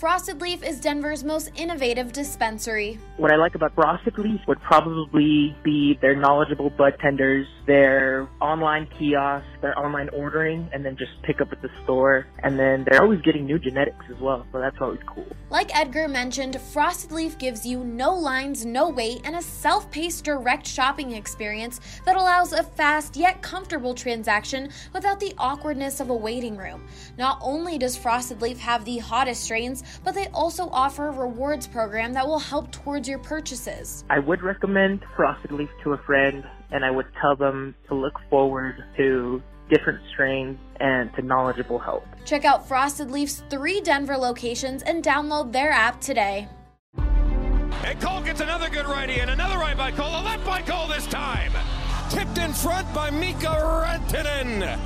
Frosted Leaf is Denver's most innovative dispensary. What I like about Frosted Leaf would probably be their knowledgeable bud tenders, their online kiosks, their online ordering, and then just pick up at the store. And then they're always getting new genetics as well, so that's always cool. Like Edgar mentioned, Frosted Leaf gives you no lines, no wait, and a self-paced direct shopping experience that allows a fast yet comfortable transaction without the awkwardness of a waiting room. Not only does Frosted Leaf have the hottest strains, but they also offer a rewards program that will help towards your purchases. I would recommend Frosted Leaf to a friend, and I would tell them to look forward to different strains and to knowledgeable help. Check out Frosted Leaf's 3 Denver locations and download their app today. And Cole gets another good righty, and another right by Cole, a left by Cole this time. Tipped in front by Mika Rantanen.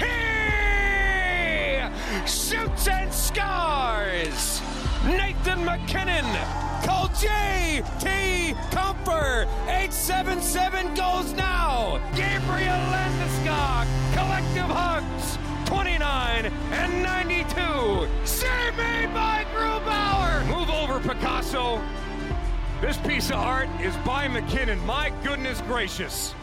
He shoots and scores. Nathan MacKinnon. Call J.T. Comfer. 877 goes now. Gabriel Landeskog. Collective hugs. 29 and 92. Save made by Grubauer. Move over, Picasso. This piece of art is by McKinnon. My goodness gracious.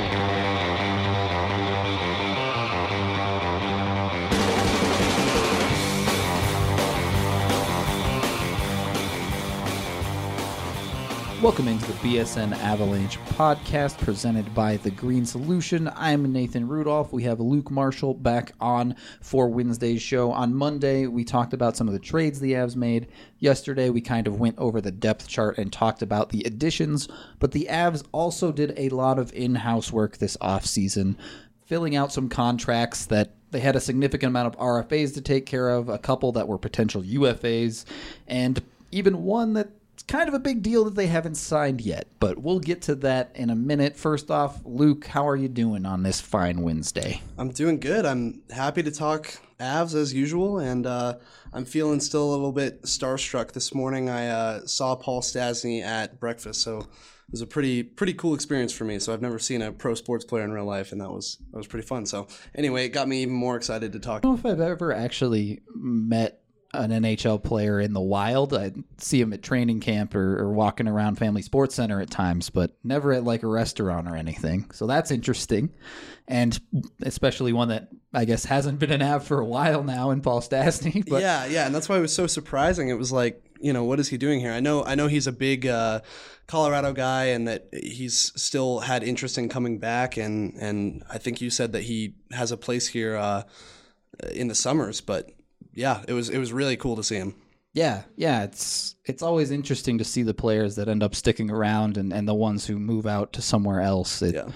Welcome into the BSN Avalanche podcast presented by The Green Solution. I'm Nathan Rudolph. We have Luke Marshall back on for Wednesday's show. On Monday, we talked about some of the trades the Avs made. Yesterday, we kind of went over the depth chart and talked about the additions, but the Avs also did a lot of in-house work this offseason, filling out some contracts that they had a significant amount of RFAs to take care of, a couple that were potential UFAs, and even one that it's kind of a big deal that they haven't signed yet, but we'll get to that in a minute. First off, Luke, how are you doing on this fine Wednesday? I'm doing good. I'm happy to talk Avs as usual, and I'm feeling still a little bit starstruck. This morning I saw Paul Stastny at breakfast, so it was a pretty cool experience for me. So I've never seen a pro sports player in real life, and that was pretty fun. So anyway, it got me even more excited to talk. I don't know if I've ever actually met an NHL player in the wild. I see him at training camp or walking around Family Sports Center at times, but never at like a restaurant or anything. So that's interesting. And especially one that I guess hasn't been an Av for a while now in Paul Stastny. But yeah. And that's why it was so surprising. It was like, what is he doing here? I know he's a big Colorado guy and that he's still had interest in coming back. And I think you said that he has a place here in the summers, but yeah, it was really cool to see him. Yeah, it's always interesting to see the players that end up sticking around and the ones who move out to somewhere else. A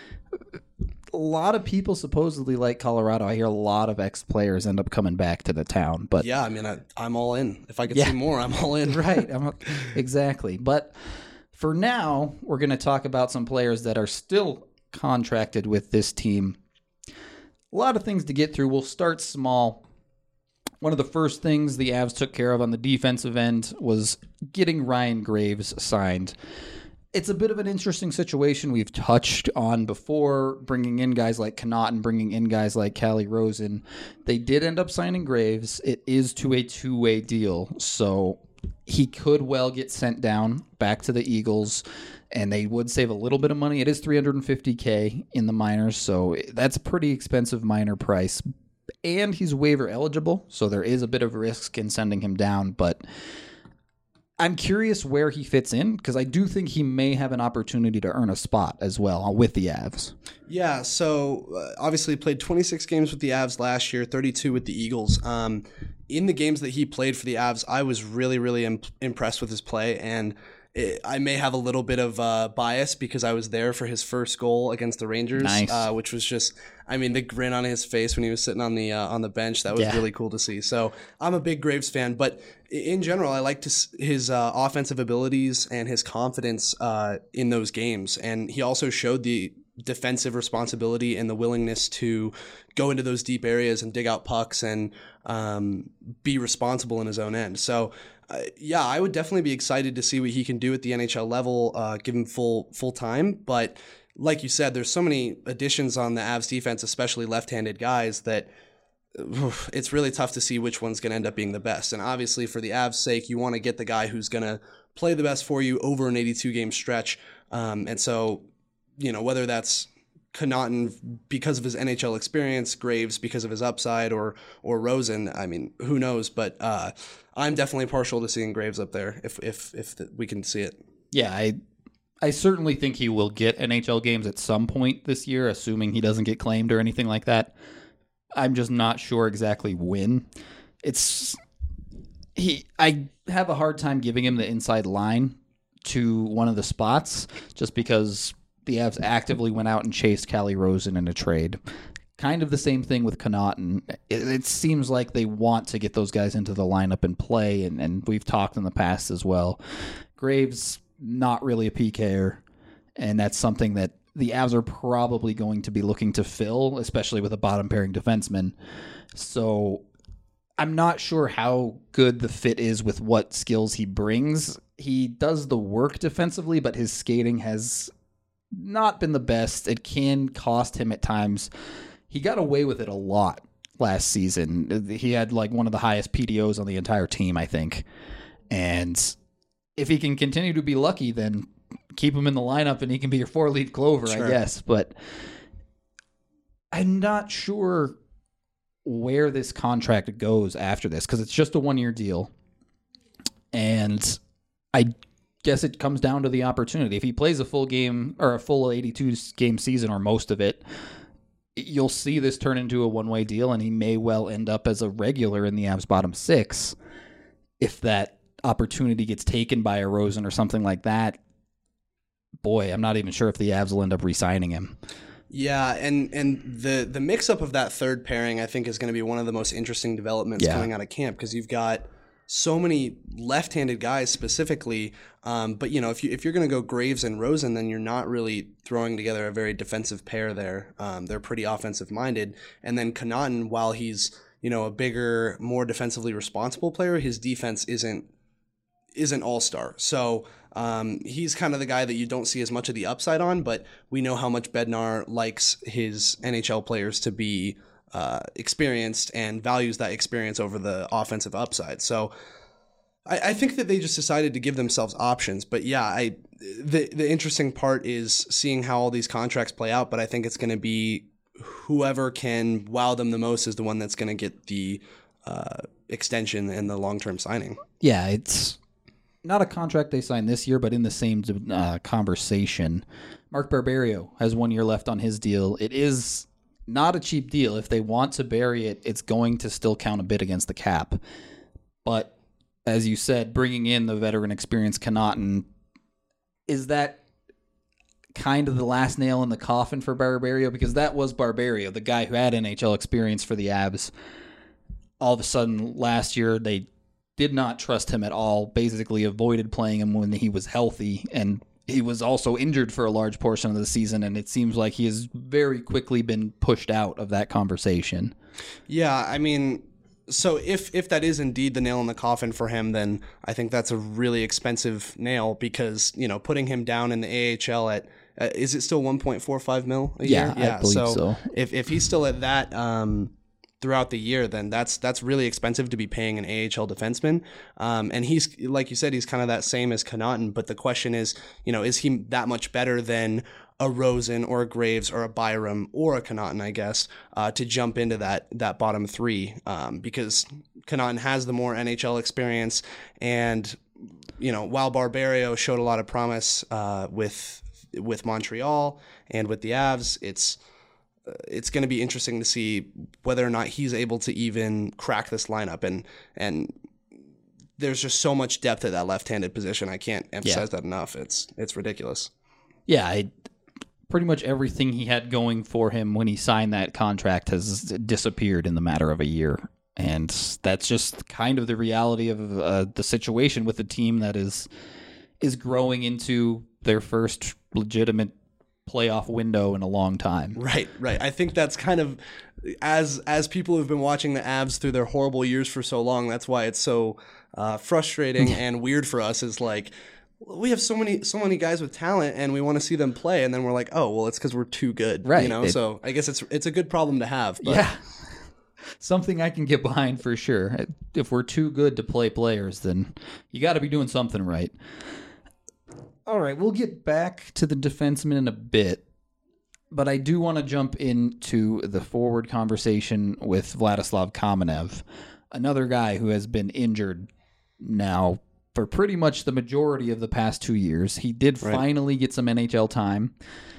lot of people supposedly like Colorado. I hear a lot of ex-players end up coming back to the town. But yeah, I mean, I'm all in. If I could see more, I'm all in. Right, exactly. But for now, we're going to talk about some players that are still contracted with this team. A lot of things to get through. We'll start small. One of the first things the Avs took care of on the defensive end was getting Ryan Graves signed. It's a bit of an interesting situation we've touched on before, bringing in guys like Connaughton and bringing in guys like Calle Rosen. They did end up signing Graves. It is to a two-way deal, so he could well get sent down back to the Eagles, and they would save a little bit of money. It is $350K in the minors, so that's a pretty expensive minor price. And he's waiver eligible, so there is a bit of risk in sending him down. But I'm curious where he fits in, because I do think he may have an opportunity to earn a spot as well with the Avs. Yeah, so obviously played 26 games with the Avs last year, 32 with the Eagles. In the games that he played for the Avs, I was really, really impressed with his play, and I may have a little bit of bias because I was there for his first goal against the Rangers, which was just, the grin on his face when he was sitting on the bench. That was really cool to see. So I'm a big Graves fan, but in general, I liked his offensive abilities and his confidence in those games. And he also showed the defensive responsibility and the willingness to go into those deep areas and dig out pucks and be responsible in his own end. So I would definitely be excited to see what he can do at the NHL level, give him full time. But like you said, there's so many additions on the Avs defense, especially left-handed guys, that it's really tough to see which one's going to end up being the best. And obviously, for the Avs' sake, you want to get the guy who's going to play the best for you over an 82-game stretch. And so, whether that's Connaughton because of his NHL experience, Graves because of his upside, or Rosen, I mean, who knows? But I'm definitely partial to seeing Graves up there if we can see it. Yeah, I certainly think he will get NHL games at some point this year, assuming he doesn't get claimed or anything like that. I'm just not sure exactly when. I have a hard time giving him the inside line to one of the spots just because the Avs actively went out and chased Calle Rosen in a trade. Kind of the same thing with Connaughton. It seems like they want to get those guys into the lineup and play, and we've talked in the past as well. Graves, not really a PKer, and that's something that the Avs are probably going to be looking to fill, especially with a bottom-pairing defenseman. So I'm not sure how good the fit is with what skills he brings. He does the work defensively, but his skating has not been the best. It can cost him at times. He got away with it a lot last season. He had like one of the highest PDOs on the entire team, I think. And if he can continue to be lucky, then keep him in the lineup and he can be your 4-leaf clover, sure. I guess. But I'm not sure where this contract goes after this because it's just a 1-year deal. And I guess it comes down to the opportunity. If he plays a full game or a full 82-game season or most of it, you'll see this turn into a one-way deal, and he may well end up as a regular in the Avs bottom 6 if that opportunity gets taken by a Rosen or something like that. Boy, I'm not even sure if the Avs will end up re-signing him. Yeah, and the mix-up of that third pairing, I think, is going to be one of the most interesting developments coming out of camp because you've got so many left-handed guys specifically. But, if you're going to go Graves and Rosen, then you're not really throwing together a very defensive pair there. They're pretty offensive-minded. And then Connaughton, while he's, a bigger, more defensively responsible player, his defense isn't all-star. So he's kind of the guy that you don't see as much of the upside on, but we know how much Bednar likes his NHL players to be experienced and values that experience over the offensive upside. So I think that they just decided to give themselves options. But yeah, the interesting part is seeing how all these contracts play out, but I think it's going to be whoever can wow them the most is the one that's going to get the extension and the long-term signing. Yeah, it's not a contract they signed this year, but in the same conversation. Mark Barberio has 1 year left on his deal. It is not a cheap deal. If they want to bury it, it's going to still count a bit against the cap. But as you said, bringing in the veteran experience Connaughton, is that kind of the last nail in the coffin for Barberio? Because that was Barberio, the guy who had NHL experience for the Avs. All of a sudden, last year, they did not trust him at all, basically avoided playing him when he was healthy, and he was also injured for a large portion of the season, and it seems like he has very quickly been pushed out of that conversation. Yeah, I mean, so if that is indeed the nail in the coffin for him, then I think that's a really expensive nail because, putting him down in the AHL at, is it still 1.45 mil a year? Yeah, I believe so. If he's still at that throughout the year, then that's really expensive to be paying an AHL defenseman. And he's, like you said, he's kind of that same as Connaughton. But the question is, is he that much better than a Rosen or a Graves or a Byram or a Connaughton, I guess, to jump into that bottom 3? Because Connaughton has the more NHL experience. And, while Barberio showed a lot of promise with Montreal and with the Avs, it's going to be interesting to see whether or not he's able to even crack this lineup. And there's just so much depth at that left-handed position. I can't emphasize that enough. It's ridiculous. Yeah, pretty much everything he had going for him when he signed that contract has disappeared in the matter of a year. And that's just kind of the reality of the situation with a team that is growing into their first legitimate playoff window in a long time. Right. I think that's kind of, as people who've been watching the Avs through their horrible years for so long, that's why it's so frustrating and weird for us, is like, we have so many guys with talent and we want to see them play, and then we're like, oh, well, it's because we're too good. Right. So I guess it's a good problem to have. But. Yeah. something I can get behind for sure. If we're too good to play players, then you got to be doing something right. All right, we'll get back to the defenseman in a bit, but I do want to jump into the forward conversation with Vladislav Kamenev, another guy who has been injured now for pretty much the majority of the past 2 years. He did finally get some NHL time,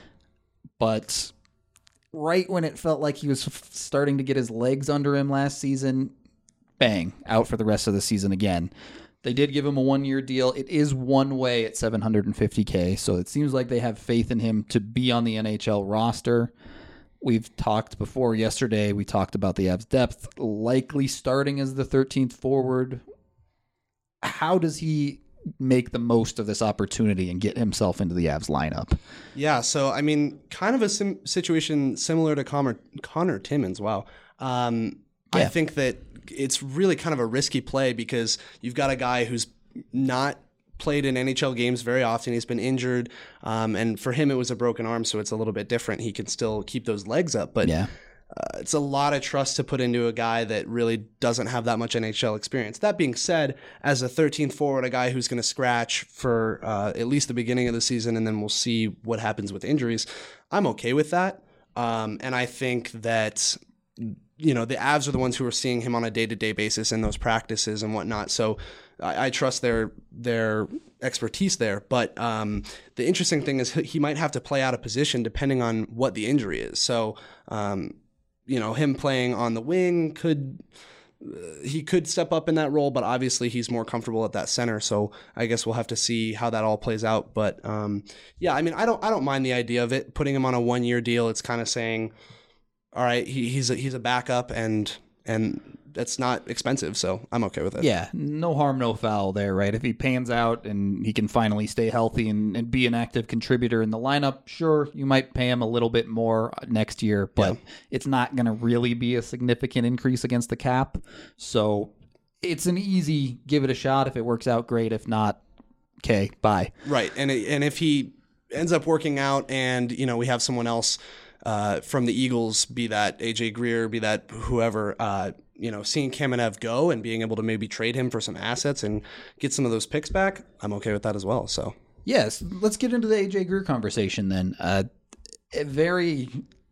but right when it felt like he was starting to get his legs under him last season, bang, out for the rest of the season again. They did give him a 1-year deal. It is one way at $750K, so it seems like they have faith in him to be on the NHL roster. We've talked before yesterday, we talked about the Avs' depth, likely starting as the 13th forward. How does he make the most of this opportunity and get himself into the Avs lineup? Yeah, so, I mean, kind of a situation similar to Connor Timmins. Wow. I think that it's really kind of a risky play because you've got a guy who's not played in NHL games very often. He's been injured, and for him it was a broken arm, so it's a little bit different. He can still keep those legs up, but it's a lot of trust to put into a guy that really doesn't have that much NHL experience. That being said, as a 13th forward, a guy who's going to scratch for at least the beginning of the season, and then we'll see what happens with injuries, I'm okay with that. And I think that the Avs are the ones who are seeing him on a day-to-day basis in those practices and whatnot. So I trust their expertise there. But the interesting thing is he might have to play out of position depending on what the injury is. So, him playing on the wing he could step up in that role, but obviously he's more comfortable at that center. So I guess we'll have to see how that all plays out. But I mean, I don't mind the idea of it, putting him on a 1-year deal. It's kind of saying, all right, he's a backup and that's not expensive, so I'm okay with it. Yeah, no harm, no foul there, right? If he pans out and he can finally stay healthy and be an active contributor in the lineup, sure, you might pay him a little bit more next year, but it's not going to really be a significant increase against the cap. So it's an easy give it a shot. If it works out, great. If not, okay, bye. Right, and if he ends up working out and, we have someone else from the Eagles, be that AJ Greer, be that whoever, seeing Kamenev go and being able to maybe trade him for some assets and get some of those picks back, I'm okay with that as well. So yes, let's get into the AJ Greer conversation then. A very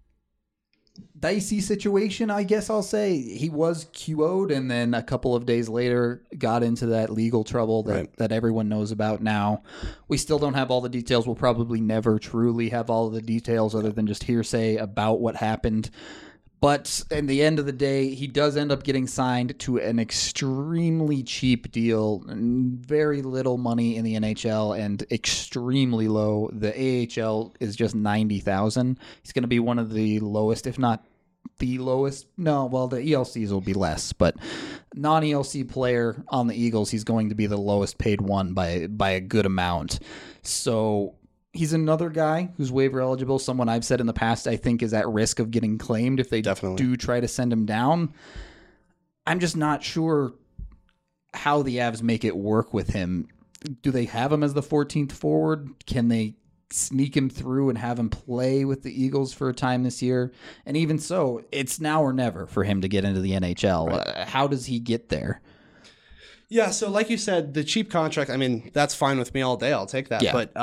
dicey situation, I guess I'll say. He was QO'd and then a couple of days later got into that legal trouble that everyone knows about now. We still don't have all the details. We'll probably never truly have all of the details other than just hearsay about what happened. But in the end of the day, he does end up getting signed to an extremely cheap deal, very little money in the NHL and extremely low. The AHL is just $90,000. He's going to be one of the lowest, if not the lowest. No, well, the ELCs will be less, but non-ELC player on the Eagles, he's going to be the lowest paid one by a good amount. So he's another guy who's waiver eligible, someone I've said in the past I think is at risk of getting claimed if they do try to send him down. I'm just not sure how the Avs make it work with him. Do they have him as the 14th forward? Can they sneak him through and have him play with the Eagles for a time this year? And even so, it's now or never for him to get into the NHL. Right. How does he get there? Yeah, so like you said, the cheap contract, I mean, that's fine with me all day. I'll take that. Yeah. But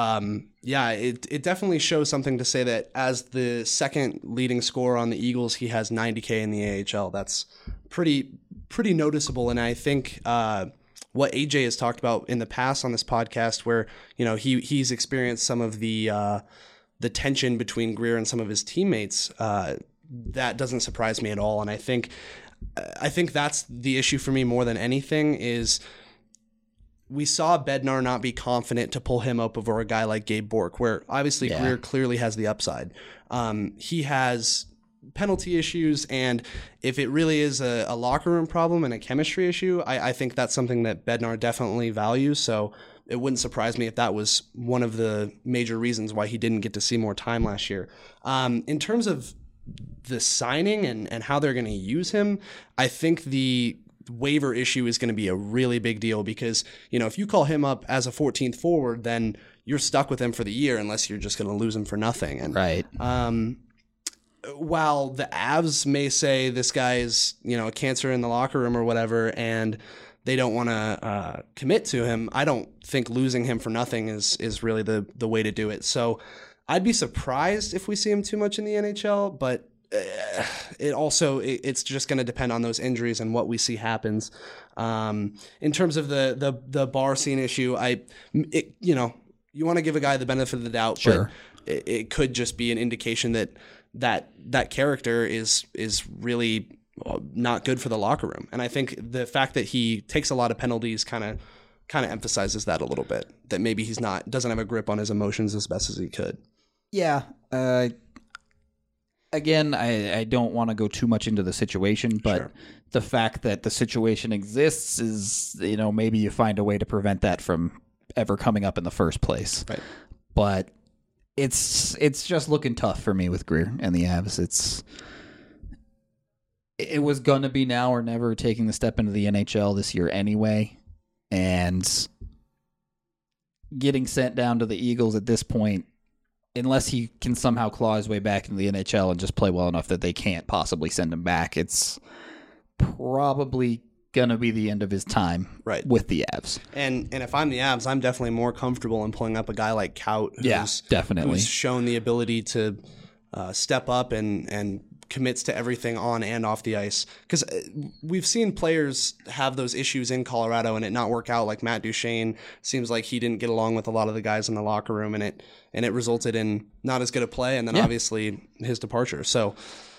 it definitely shows something to say that as the second leading scorer on the Eagles, he has $90K in the AHL. That's pretty noticeable. And I think what AJ has talked about in the past on this podcast, where he's experienced some of the tension between Greer and some of his teammates, that doesn't surprise me at all. And I think that's the issue for me more than anything is we saw Bednar not be confident to pull him up over a guy like Gabe Bourque, where obviously Greer clearly has the upside. He has penalty issues, and if it really is a locker room problem and a chemistry issue, I think that's something that Bednar definitely values. So it wouldn't surprise me if that was one of the major reasons why he didn't get to see more time last year. In terms of the signing and how they're going to use him, I think the waiver issue is going to be a really big deal because, if you call him up as a 14th forward, then you're stuck with him for the year unless you're just going to lose him for nothing. And, right. while the Avs may say this guy is, a cancer in the locker room or whatever, and they don't want to commit to him, I don't think losing him for nothing is really the way to do it. So I'd be surprised if we see him too much in the NHL, but it's just going to depend on those injuries and what we see happens. In terms of the bar scene issue, you want to give a guy the benefit of the doubt, Sure. but it could just be an indication that character is really not good for the locker room. And I think the fact that he takes a lot of penalties kind of emphasizes that a little bit, that maybe doesn't have a grip on his emotions as best as he could. Yeah. Again, I don't want to go too much into the situation, but Sure. the fact that the situation exists is, maybe you find a way to prevent that from ever coming up in the first place. Right. But it's just looking tough for me with Greer and the Avs. It was going to be now or never taking the step into the NHL this year anyway, and getting sent down to the Eagles at this point, unless he can somehow claw his way back into the NHL and just play well enough that they can't possibly send him back, it's probably going to be the end of his time with the Avs. And if I'm the Avs, I'm definitely more comfortable in pulling up a guy like Kaut, definitely who's shown the ability to step up and commits to everything on and off the ice. Because we've seen players have those issues in Colorado and it not work out. Like Matt Duchene, seems like he didn't get along with a lot of the guys in the locker room, and it resulted in not as good a play, and then obviously his departure. So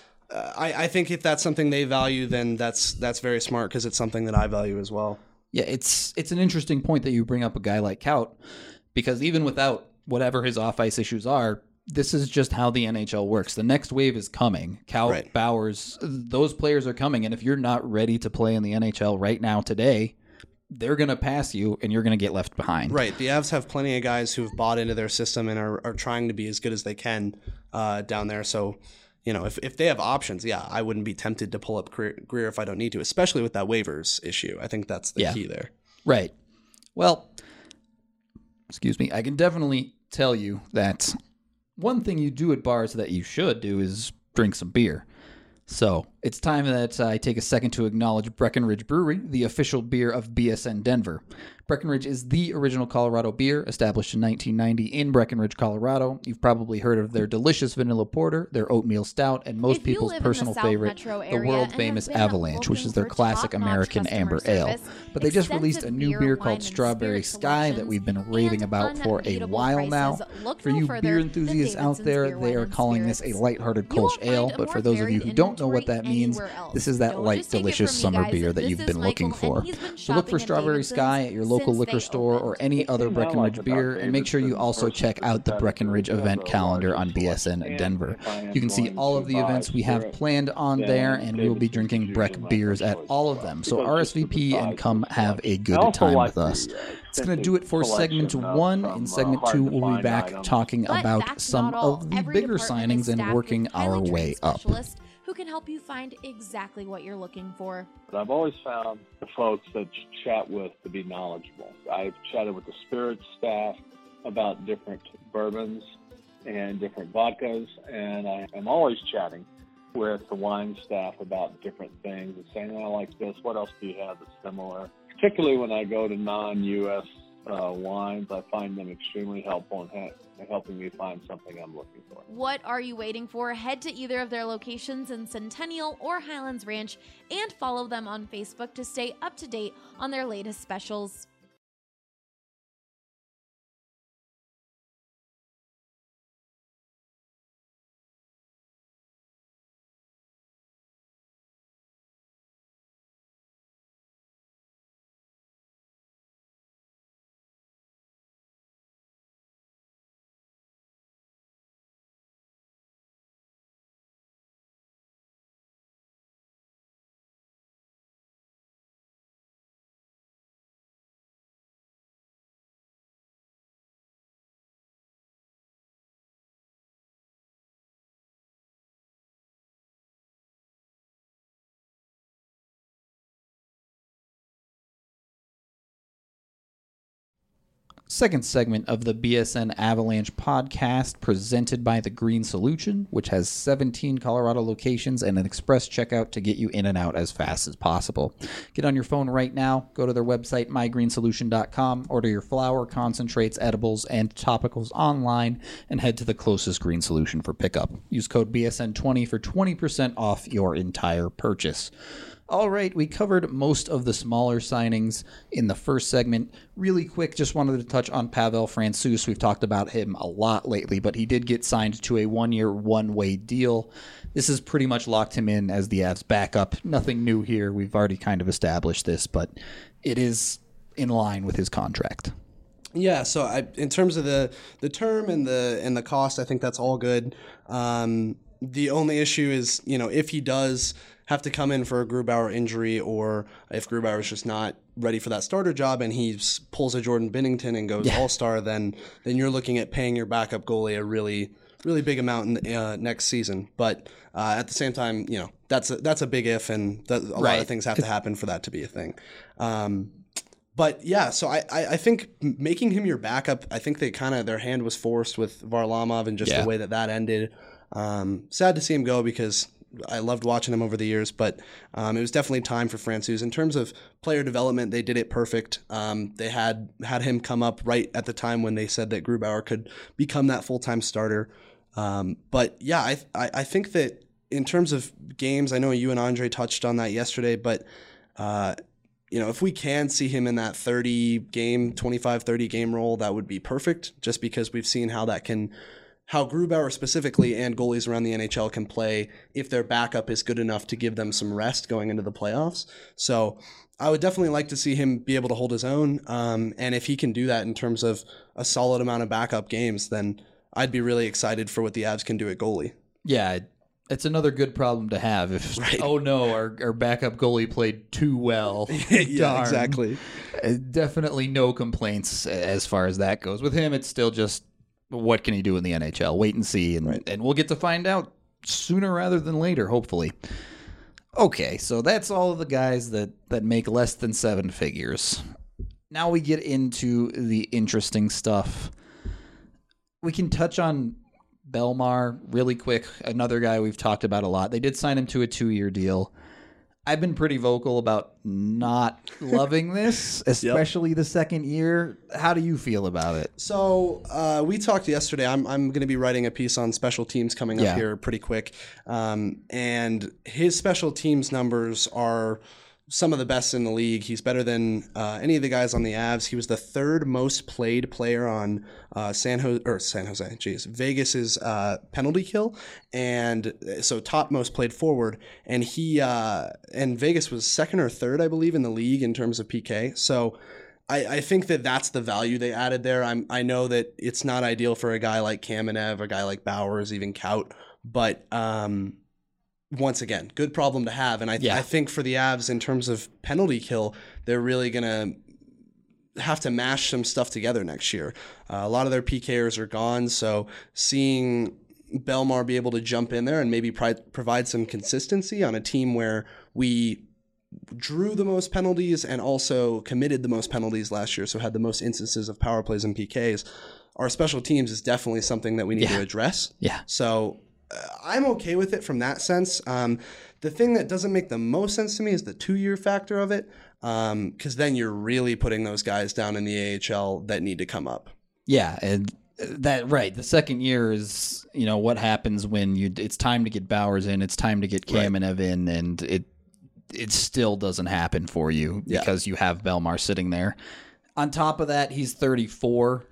I think if that's something they value, then that's very smart, because it's something that I value as well. Yeah, it's an interesting point that you bring up a guy like Kaut, because even without whatever his off-ice issues are, this is just how the NHL works. The next wave is coming. Kaut, Bowers, those players are coming, and if you're not ready to play in the NHL right now today, they're going to pass you, and you're going to get left behind. Right. The Avs have plenty of guys who've bought into their system and are trying to be as good as they can down there. So, if they have options, I wouldn't be tempted to pull up Greer if I don't need to, especially with that waivers issue. I think that's the key there. Right. Well, excuse me. I can definitely tell you that one thing you do at bars that you should do is drink some beer. So it's time that I take a second to acknowledge Breckenridge Brewery, the official beer of BSN Denver. Breckenridge is the original Colorado beer, established in 1990 in Breckenridge, Colorado. You've probably heard of their delicious vanilla porter, their oatmeal stout, and most people's personal favorite, the world-famous Avalanche, which is their classic American amber ale. But they just released a new beer called Strawberry Sky that we've been raving about for a while now. For you beer enthusiasts out there, they are calling this a lighthearted Kolsch ale, but for those of you who don't know what that means, this is that light, delicious summer beer that you've been looking for. So look for Strawberry Sky at your local liquor store or any other Breckenridge beer, and make sure you also check out the Breckenridge event calendar on BSN Denver. You can see all of the events we have planned on there, and we will be drinking Breck beers at all of them. So RSVP and come have a good time with us. It's going to do it for segment 1. In segment 2, we'll be back talking about some of the bigger signings and working our way up. Who can help you find exactly what you're looking for. I've always found the folks that chat with to be knowledgeable. I've chatted with the spirits staff about different bourbons and different vodkas, and I am always chatting with the wine staff about different things and saying, I like this, what else do you have that's similar? Particularly when I go to non-U.S. Wines, I find them extremely helpful in helping me find something I'm looking for. What are you waiting for? Head to either of their locations in Centennial or Highlands Ranch and follow them on Facebook to stay up to date on their latest specials. Second segment of the BSN Avalanche podcast presented by The Green Solution, which has 17 Colorado locations and an express checkout to get you in and out as fast as possible. Get on your phone right now, go to their website, mygreensolution.com, order your flour, concentrates, edibles, and topicals online, and head to the closest Green Solution for pickup. Use code BSN20 for 20% off your entire purchase. All right, we covered most of the smaller signings in the first segment. Really quick, just wanted to touch on Pavel Francouz. We've talked about him a lot lately, but he did get signed to a one-year, one-way deal. This has pretty much locked him in as the Avs backup. Nothing new here. We've already kind of established this, but it is in line with his contract. Yeah, so in terms of the term and the cost, I think that's all good. The only issue is, if he does have to come in for a Grubauer injury, or if Grubauer is just not ready for that starter job and he pulls a Jordan Binnington and goes all-star, then you're looking at paying your backup goalie a really, really big amount in next season. But at the same time, that's a big if, and a lot of things have to happen for that to be a thing. But yeah, so I think making him your backup, I think their hand was forced with Varlamov and just the way that ended. Sad to see him go because I loved watching him over the years, but it was definitely time for Francouz. In terms of player development, they did it perfect. They had him come up right at the time when they said that Grubauer could become that full-time starter. But yeah, I think that in terms of games, I know you and Andre touched on that yesterday, but if we can see him in that 25-30 game role, that would be perfect, just because we've seen how Grubauer specifically and goalies around the NHL can play if their backup is good enough to give them some rest going into the playoffs. So I would definitely like to see him be able to hold his own. And if he can do that in terms of a solid amount of backup games, then I'd be really excited for what the Avs can do at goalie. Yeah, it's another good problem to have. Oh no, our backup goalie played too well. Yeah, exactly. Definitely no complaints as far as that goes. With him, it's still just, what can he do in the NHL? Wait and see, and we'll get to find out sooner rather than later, hopefully. Okay, so that's all of the guys that make less than 7 figures. Now we get into the interesting stuff. We can touch on Belmar really quick, another guy we've talked about a lot. They did sign him to a 2-year deal. I've been pretty vocal about not loving this, especially the second year. How do you feel about it? So we talked yesterday. I'm going to be writing a piece on special teams coming up here pretty quick. And his special teams numbers are some of the best in the league. He's better than any of the guys on the Avs. He was the third most played player on Vegas's penalty kill, and so top most played forward. And and Vegas was second or third, I believe, in the league in terms of PK. So I think that's the value they added there. I know that it's not ideal for a guy like Kamenev, a guy like Bowers, even Kaut, but once again, good problem to have. And I think for the Avs, in terms of penalty kill, they're really going to have to mash some stuff together next year. A lot of their PKers are gone, so seeing Belmar be able to jump in there and maybe provide some consistency on a team where we drew the most penalties and also committed the most penalties last year, so had the most instances of power plays and PKs, our special teams is definitely something that we need to address. Yeah. So I'm okay with it from that sense. The thing that doesn't make the most sense to me is the 2-year factor of it, because then you're really putting those guys down in the AHL that need to come up. Yeah, and the second year is, what happens when it's time to get Bowers in, it's time to get Kamenev in, and it still doesn't happen for you because you have Belmar sitting there. On top of that, he's 34.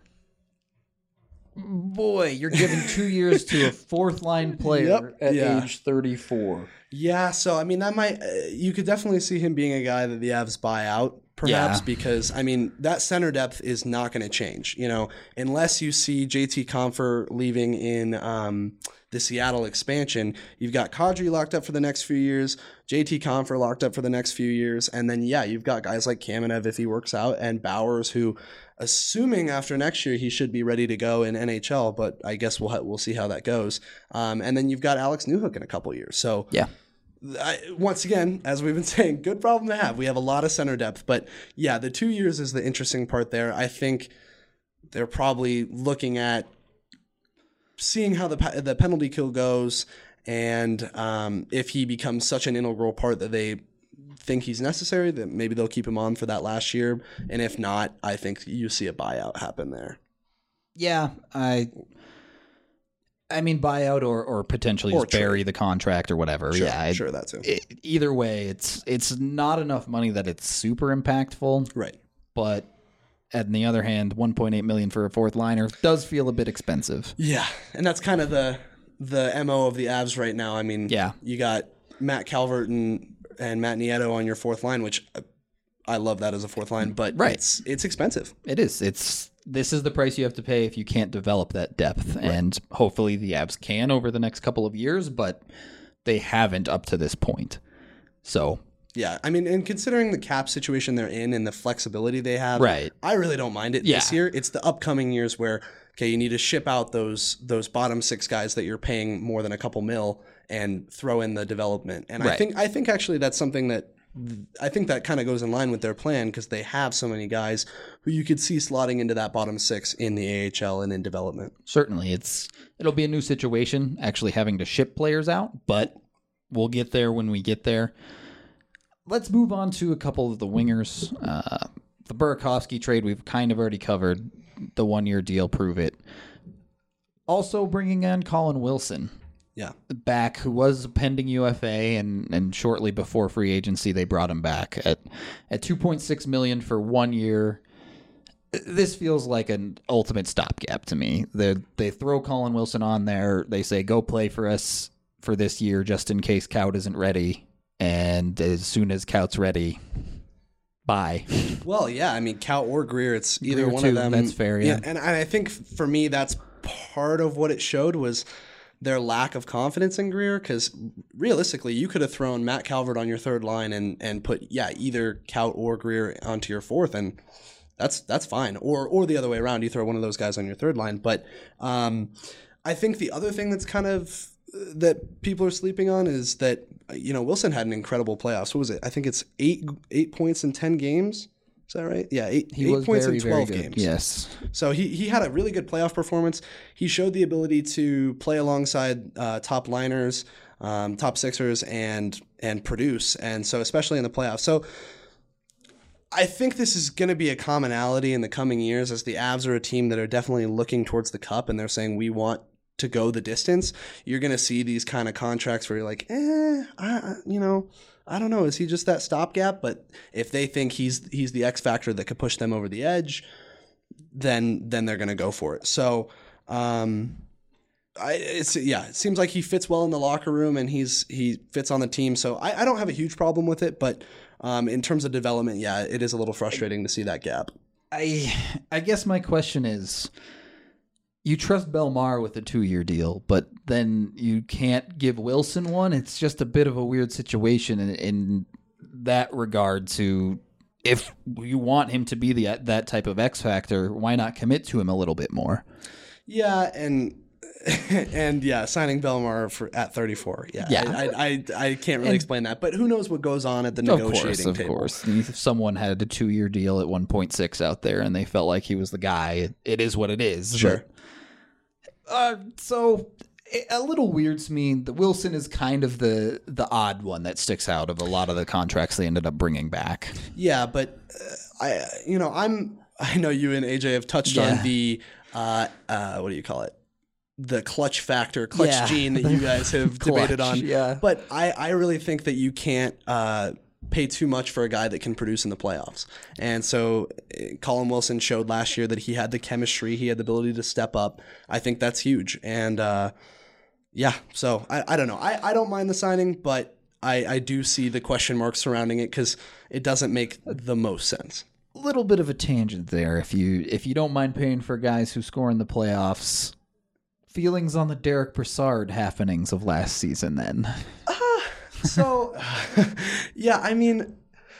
Boy, you're giving 2 years to a fourth-line player at age 34. Yeah, so, I mean, that might you could definitely see him being a guy that the Avs buy out, perhaps, because, I mean, that center depth is not going to change, unless you see JT Compher leaving in the Seattle expansion. You've got Kadri locked up for the next few years, JT Compher locked up for the next few years, and then, you've got guys like Kamenev if he works out, and Bowers, who, assuming after next year he should be ready to go in NHL, but I guess we'll see how that goes. And then you've got Alex Newhook in a couple years. So once again, as we've been saying, good problem to have. We have a lot of center depth, but the 2 years is the interesting part there. I think they're probably looking at seeing how the penalty kill goes, and if he becomes such an integral part that they think he's necessary, that maybe they'll keep him on for that last year. And if not, I think you see a buyout happen there. Yeah, I mean buyout or potentially just bury the contract or whatever. Sure, yeah, sure, that too. Either way, it's not enough money that it's super impactful. Right. But on the other hand, $1.8 million for a fourth liner does feel a bit expensive. Yeah, and that's kind of the MO of the Avs right now. I mean, yeah, you got Matt Calvert and Matt Nieto on your fourth line, which I love that as a fourth line, but it's expensive. It is. This is the price you have to pay if you can't develop that depth, and hopefully the Avs can over the next couple of years, but they haven't up to this point. So. Yeah, I mean, and considering the cap situation they're in and the flexibility they have, I really don't mind it this year. It's the upcoming years where, okay, you need to ship out those bottom six guys that you're paying more than a couple mil and throw in the development. And I think actually that's something that I think that kind of goes in line with their plan, because they have so many guys who you could see slotting into that bottom six in the AHL and in development. Certainly, it'll be a new situation actually having to ship players out, but we'll get there when we get there. Let's move on to a couple of the wingers. The Burakovsky trade we've kind of already covered. The 1-year deal, prove it. Also bringing on Colin Wilson. Yeah. Back, who was pending UFA, and shortly before free agency, they brought him back at $2.6 million for 1 year. This feels like an ultimate stopgap to me. They throw Colin Wilson on there. They say, go play for us for this year just in case Kaut isn't ready. And as soon as Kaut's ready, bye. Well, yeah, I mean, Kaut or Greer, it's either Greer one too, of them. That's fair, yeah. And I think for me, that's part of what it showed was their lack of confidence in Greer, because realistically, you could have thrown Matt Calvert on your third line and put, either Kaut or Greer onto your fourth, and that's fine. Or the other way around, you throw one of those guys on your third line. But I think the other thing that's kind of that people are sleeping on is that, Wilson had an incredible playoffs. What was it? I think it's 8 points in 10 games. Is that right? Yeah, eight points in 12 games. Yes. So he had a really good playoff performance. He showed the ability to play alongside top liners, top sixers, and produce. And so especially in the playoffs. So I think this is going to be a commonality in the coming years, as the Avs are a team that are definitely looking towards the cup, and they're saying we want to go the distance. You're going to see these kind of contracts where you're like, I don't know. Is he just that stopgap? But if they think he's the X factor that could push them over the edge, then they're going to go for it. So, it seems like he fits well in the locker room, and he fits on the team. So I don't have a huge problem with it, but in terms of development, it is a little frustrating to see that gap. I guess my question is, you trust Bellemare with a 2-year deal, but then you can't give Wilson one. It's just a bit of a weird situation in that regard. To, if you want him to be that type of X factor, why not commit to him a little bit more? Yeah, and signing Bellemare at 34. I can't really explain that, but who knows what goes on at the negotiating table. Of course. If someone had a 2-year deal at 1.6 out there and they felt like he was the guy, it is what it is. Sure. So a little weird to me. The Wilson is kind of the odd one that sticks out of a lot of the contracts they ended up bringing back. Yeah, but I know you and AJ have touched on the what do you call it? The clutch factor, gene that you guys have debated on. Yeah. But I really think that you can't pay too much for a guy that can produce in the playoffs. And so Colin Wilson showed last year that he had the chemistry, he had the ability to step up. I think that's huge. And so I don't know. I don't mind the signing, but I do see the question marks surrounding it, because it doesn't make the most sense. A little bit of a tangent there. If you don't mind paying for guys who score in the playoffs, feelings on the Derek Brassard happenings of last season then? So, I mean,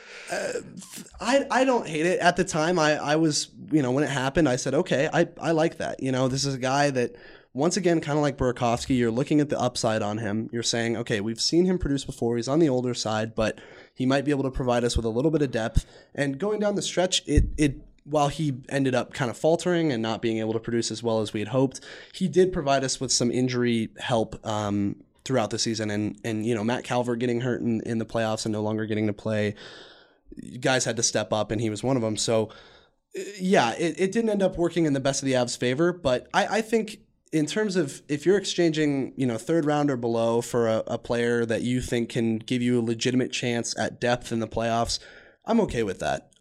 I don't hate it. At the time, I was, when it happened, I said, okay, I like that. This is a guy that, once again, kind of like Burakovsky, you're looking at the upside on him. You're saying, okay, we've seen him produce before. He's on the older side, but he might be able to provide us with a little bit of depth. And going down the stretch, it while he ended up kind of faltering and not being able to produce as well as we had hoped, he did provide us with some injury help throughout the season. And Matt Calvert getting hurt in the playoffs and no longer getting to play, guys had to step up, and he was one of them. So, yeah, it didn't end up working in the best of the Avs' favor, but I think in terms of if you're exchanging, third round or below for a player that you think can give you a legitimate chance at depth in the playoffs, I'm okay with that.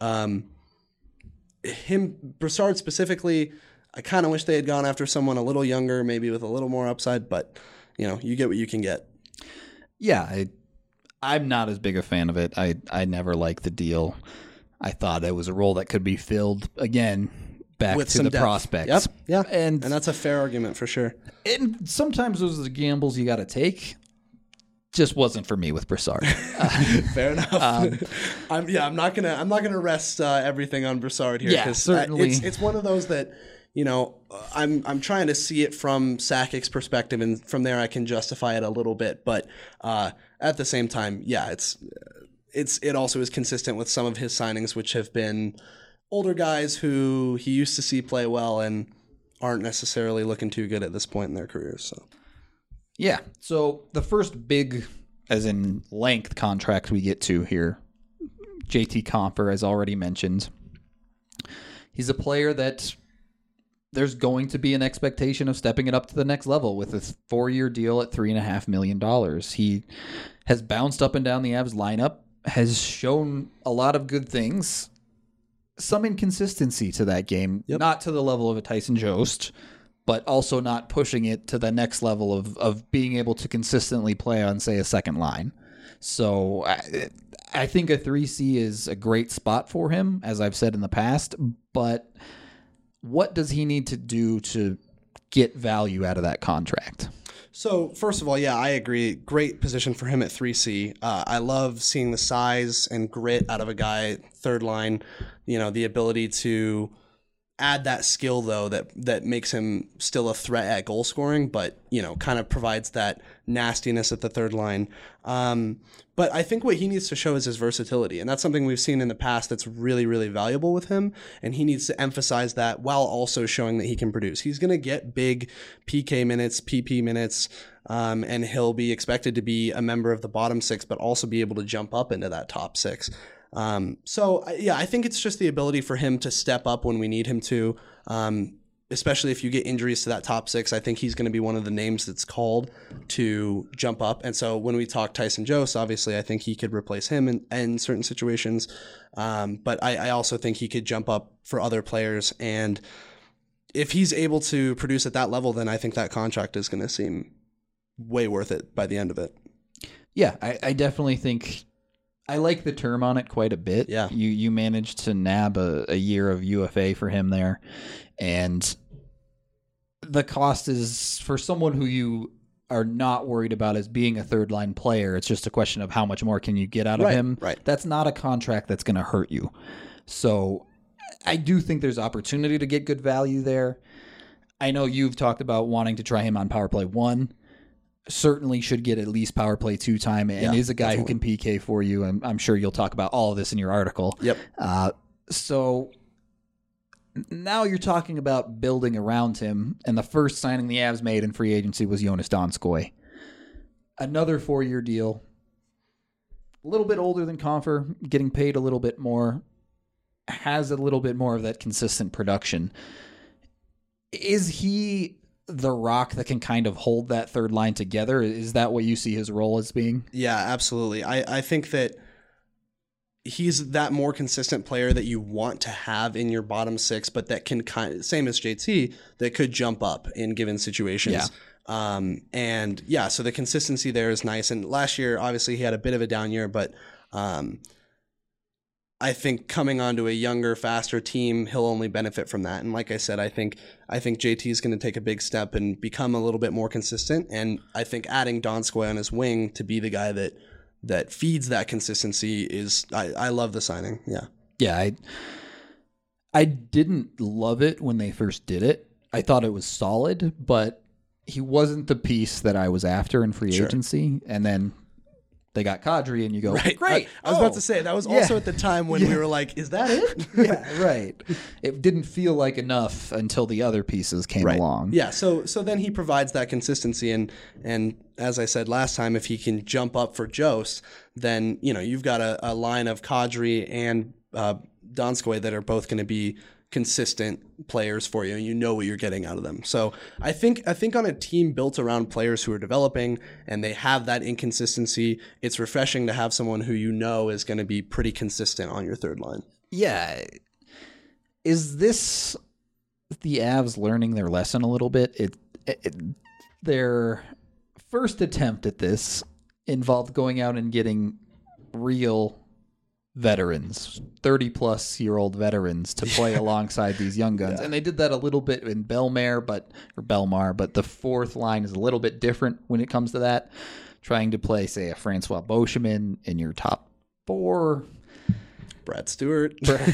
Brassard specifically, I kind of wish they had gone after someone a little younger, maybe with a little more upside, but you get what you can get. Yeah, I'm not as big a fan of it. I never liked the deal. I thought it was a role that could be filled again back with to the depth. prospects. Yep. Yeah. And that's a fair argument for sure. And sometimes those are the gambles you got to take. Just wasn't for me with Brassard. Fair enough. I'm not gonna rest everything on Brassard here. Yeah, certainly. It's one of those that I'm trying to see it from Sakic's perspective, and from there I can justify it a little bit. But at the same time, yeah, it also is consistent with some of his signings, which have been older guys who he used to see play well and aren't necessarily looking too good at this point in their careers. So. Yeah. So the first big, as in length, contract we get to here, JT Compher, as already mentioned. He's a player that there's going to be an expectation of stepping it up to the next level with a 4-year deal at $3.5 million. He has bounced up and down the Avs lineup, has shown a lot of good things. Some inconsistency to that game, not to the level of a Tyson Jost, but also not pushing it to the next level of being able to consistently play on, say, a second line. So I think a 3C is a great spot for him, as I've said in the past, but what does he need to do to get value out of that contract? So, first of all, yeah, I agree. Great position for him at 3C. I love seeing the size and grit out of a guy, third line, the ability to add that skill, though, that makes him still a threat at goal scoring, but, kind of provides that nastiness at the third line. But I think what he needs to show is his versatility, and that's something we've seen in the past that's really, really valuable with him, and he needs to emphasize that while also showing that he can produce. He's going to get big PK minutes, PP minutes, and he'll be expected to be a member of the bottom six, but also be able to jump up into that top six. So I think it's just the ability for him to step up when we need him to, especially if you get injuries to that top six. I think he's going to be one of the names that's called to jump up. And so when we talk Tyson Jost, obviously I think he could replace him in certain situations. But I also think he could jump up for other players. And if he's able to produce at that level, then I think that contract is going to seem way worth it by the end of it. Yeah, I definitely think I like the term on it quite a bit. Yeah. You managed to nab a year of UFA for him there. And the cost is, for someone who you are not worried about as being a third line player, it's just a question of how much more can you get out of him. Right. That's not a contract that's going to hurt you. So I do think there's opportunity to get good value there. I know you've talked about wanting to try him on power play 1. Certainly should get at least power play 2 time, and is a guy who can PK for you. And I'm sure you'll talk about all of this in your article. Yep. So now you're talking about building around him, and the first signing the Avs made in free agency was Jonas Donskoi. Another 4-year deal. A little bit older than Compher, getting paid a little bit more, has a little bit more of that consistent production. Is he the rock that can kind of hold that third line together? Is that what you see his role as being? Yeah, absolutely. I think that he's that more consistent player that you want to have in your bottom six, but that can same as JT, that could jump up in given situations. Yeah. So the consistency there is nice. And last year, obviously he had a bit of a down year, but I think coming onto a younger, faster team, he'll only benefit from that. And like I said, I think JT is going to take a big step and become a little bit more consistent. And I think adding Donskoi on his wing to be the guy that feeds that consistency is, I love the signing. Yeah. Yeah. I didn't love it when they first did it. I thought it was solid, but he wasn't the piece that I was after in free agency. And then they got Kadri, and you go, Right. great. I was about to say, that was also at the time when we were like, is that it? Yeah, right. It didn't feel like enough until the other pieces came along. Yeah, so then he provides that consistency, and as I said last time, if he can jump up for Jost, then you've got a line of Kadri and Donskoy that are both going to be consistent players for you, and you know what you're getting out of them. So I think on a team built around players who are developing and they have that inconsistency, it's refreshing to have someone who is going to be pretty consistent on your third line. Yeah. Is this the Avs learning their lesson a little bit? Their first attempt at this involved going out and getting real veterans, 30-plus-year-old veterans to play alongside these young guns. And they did that a little bit in Belmar, but the fourth line is a little bit different when it comes to that. Trying to play, say, a Francois Beauchemin in your top four. Brad Stewart.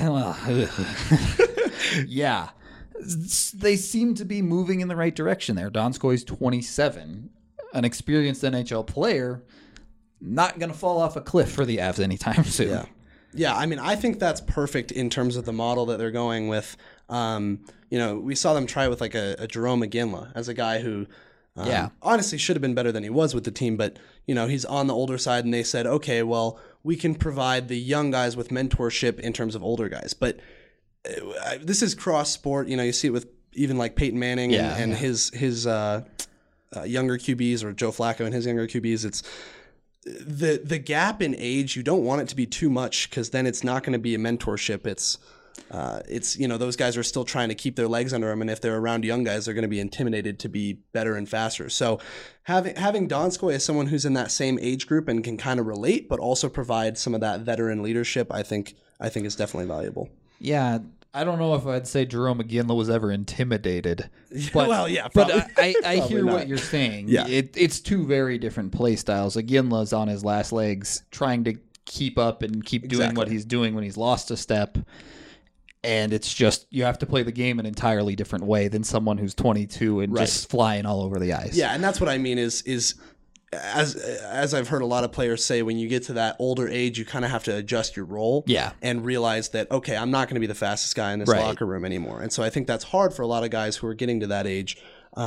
Yeah. They seem to be moving in the right direction there. Donskoy's 27, an experienced NHL player, not going to fall off a cliff for the Avs anytime soon. Yeah, I mean, I think that's perfect in terms of the model that they're going with. We saw them try with like a Jerome McGinley as a guy who honestly should have been better than he was with the team, but he's on the older side, and they said, okay, well, we can provide the young guys with mentorship in terms of older guys. But this is cross sport. You see it with even like Peyton Manning and his younger QBs, or Joe Flacco and his younger QBs. It's the gap in age. You don't want it to be too much, because then it's not going to be a mentorship. It's those guys are still trying to keep their legs under them, and if they're around young guys, they're going to be intimidated to be better and faster. So having Donskoy as someone who's in that same age group and can kind of relate, but also provide some of that veteran leadership, I think is definitely valuable. Yeah, I don't know if I'd say Jerome McGinley was ever intimidated. But, but I hear what you're saying. Yeah. It's two very different play styles. McGinley's on his last legs, trying to keep up and keep doing what he's doing when he's lost a step. And it's just, you have to play the game an entirely different way than someone who's 22 and just flying all over the ice. Yeah, and that's what I mean is as I've heard a lot of players say, when you get to that older age, you kind of have to adjust your role and realize that, okay, I'm not going to be the fastest guy in this locker room anymore. And so I think that's hard for a lot of guys who are getting to that age.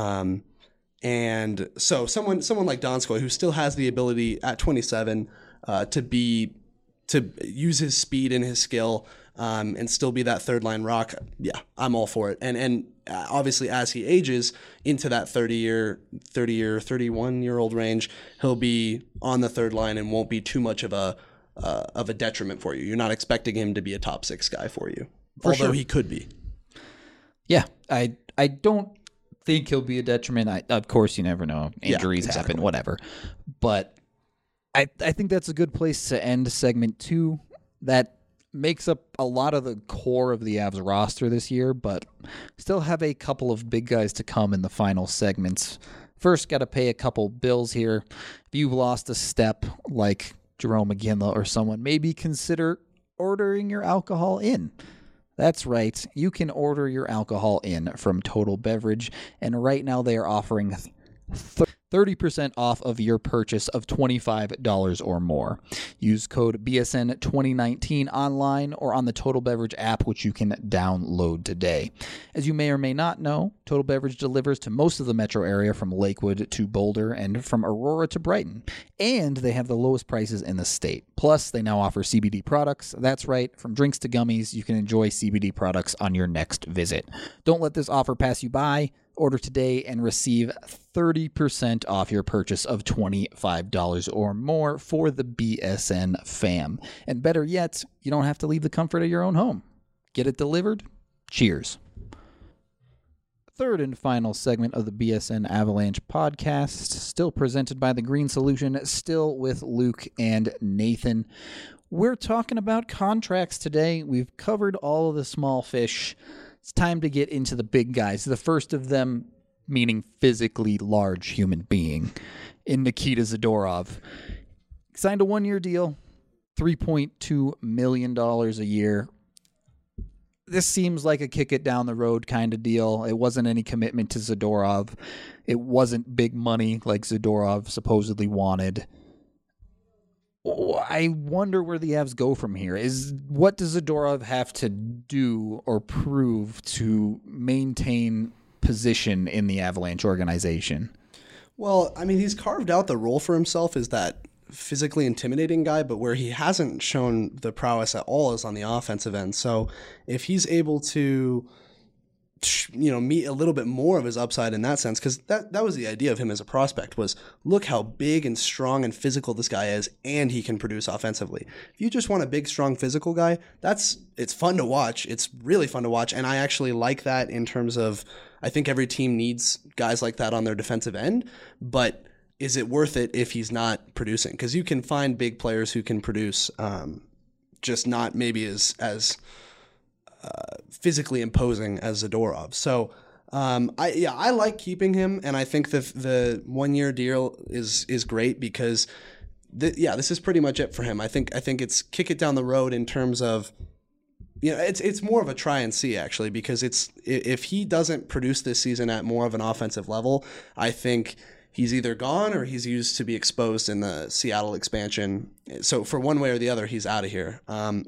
And so someone like Donskoy, who still has the ability at 27 to use his speed and his skill and still be that third line rock, I'm all for it. And obviously, as he ages into that 31-year-old range, he'll be on the third line and won't be too much of a detriment for you. You're not expecting him to be a top six guy for you, although he could be. Yeah, I don't think he'll be a detriment. Of course, you never know. Injuries happen, whatever. But I think that's a good place to end segment 2. That makes up a lot of the core of the Avs roster this year, but still have a couple of big guys to come in the final segments. First, got to pay a couple bills here. If you've lost a step like Jerome McGinley or someone, maybe consider ordering your alcohol in. That's right. You can order your alcohol in from Total Beverage, and right now they are offering 30% off of your purchase of $25 or more. Use code BSN2019 online or on the Total Beverage app, which you can download today. As you may or may not know, Total Beverage delivers to most of the metro area from Lakewood to Boulder and from Aurora to Brighton. And they have the lowest prices in the state. Plus, they now offer CBD products. That's right, from drinks to gummies, you can enjoy CBD products on your next visit. Don't let this offer pass you by. Order today and receive 30% off your purchase of $25 or more for the BSN fam. And better yet, you don't have to leave the comfort of your own home. Get it delivered. Cheers. Third and final segment of the BSN Avalanche podcast, still presented by The Green Solution, still with Luke and Nathan. We're talking about contracts today. We've covered all of the small fish. It's time to get into the big guys. The first of them, meaning physically large human being, in Nikita Zadorov. Signed a 1-year deal, $3.2 million a year. This seems like a kick it down the road kind of deal. It wasn't any commitment to Zadorov. It wasn't big money like Zadorov supposedly wanted. I wonder where the Avs go from here. What does Zadorov have to do or prove to maintain position in the Avalanche organization? Well, I mean, he's carved out the role for himself as that physically intimidating guy, but where he hasn't shown the prowess at all is on the offensive end. So if he's able to, meet a little bit more of his upside in that sense, because that was the idea of him as a prospect, was look how big and strong and physical this guy is, and he can produce offensively. If you just want a big, strong, physical guy, it's fun to watch. It's really fun to watch, and I actually like that in terms of, I think every team needs guys like that on their defensive end, but is it worth it if he's not producing? Because you can find big players who can produce, just not maybe as physically imposing as Zadorov. So I like keeping him, and I think the 1 year deal is great because this is pretty much it for him. I think it's kick it down the road in terms of, it's more of a try and see actually, because if he doesn't produce this season at more of an offensive level, I think he's either gone or he's used to be exposed in the Seattle expansion. So for one way or the other, he's out of here.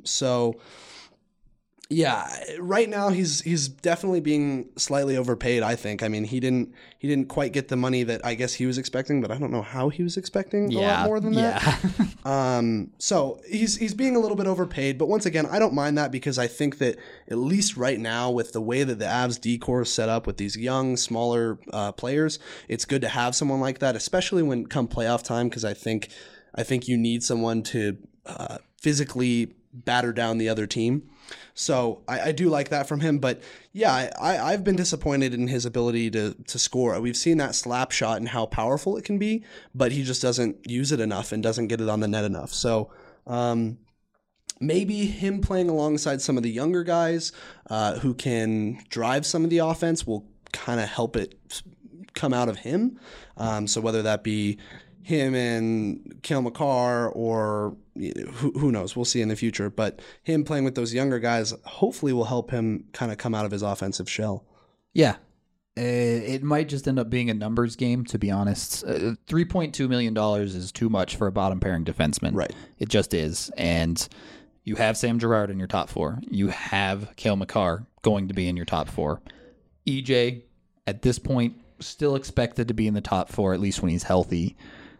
Yeah, right now he's definitely being slightly overpaid, I think. I mean, he didn't quite get the money that I guess he was expecting, but I don't know how he was expecting a lot more than that. So he's being a little bit overpaid, but once again, I don't mind that because I think that at least right now with the way that the Avs D-core is set up with these young, smaller players, it's good to have someone like that, especially when come playoff time, because I think you need someone to physically batter down the other team. So I do like that from him, but yeah, I've been disappointed in his ability to score. We've seen that slap shot and how powerful it can be, but he just doesn't use it enough and doesn't get it on the net enough. So maybe him playing alongside some of the younger guys who can drive some of the offense will kind of help it come out of him. So whether that be him and Cale Makar or who knows, we'll see in the future, but him playing with those younger guys hopefully will help him kind of come out of his offensive shell. Yeah. It might just end up being a numbers game, to be honest. $3.2 million is too much for a bottom pairing defenseman. Right. It just is. And you have Sam Girard in your top four. You have Cale Makar going to be in your top four. EJ, at this point, still expected to be in the top four, at least when he's healthy.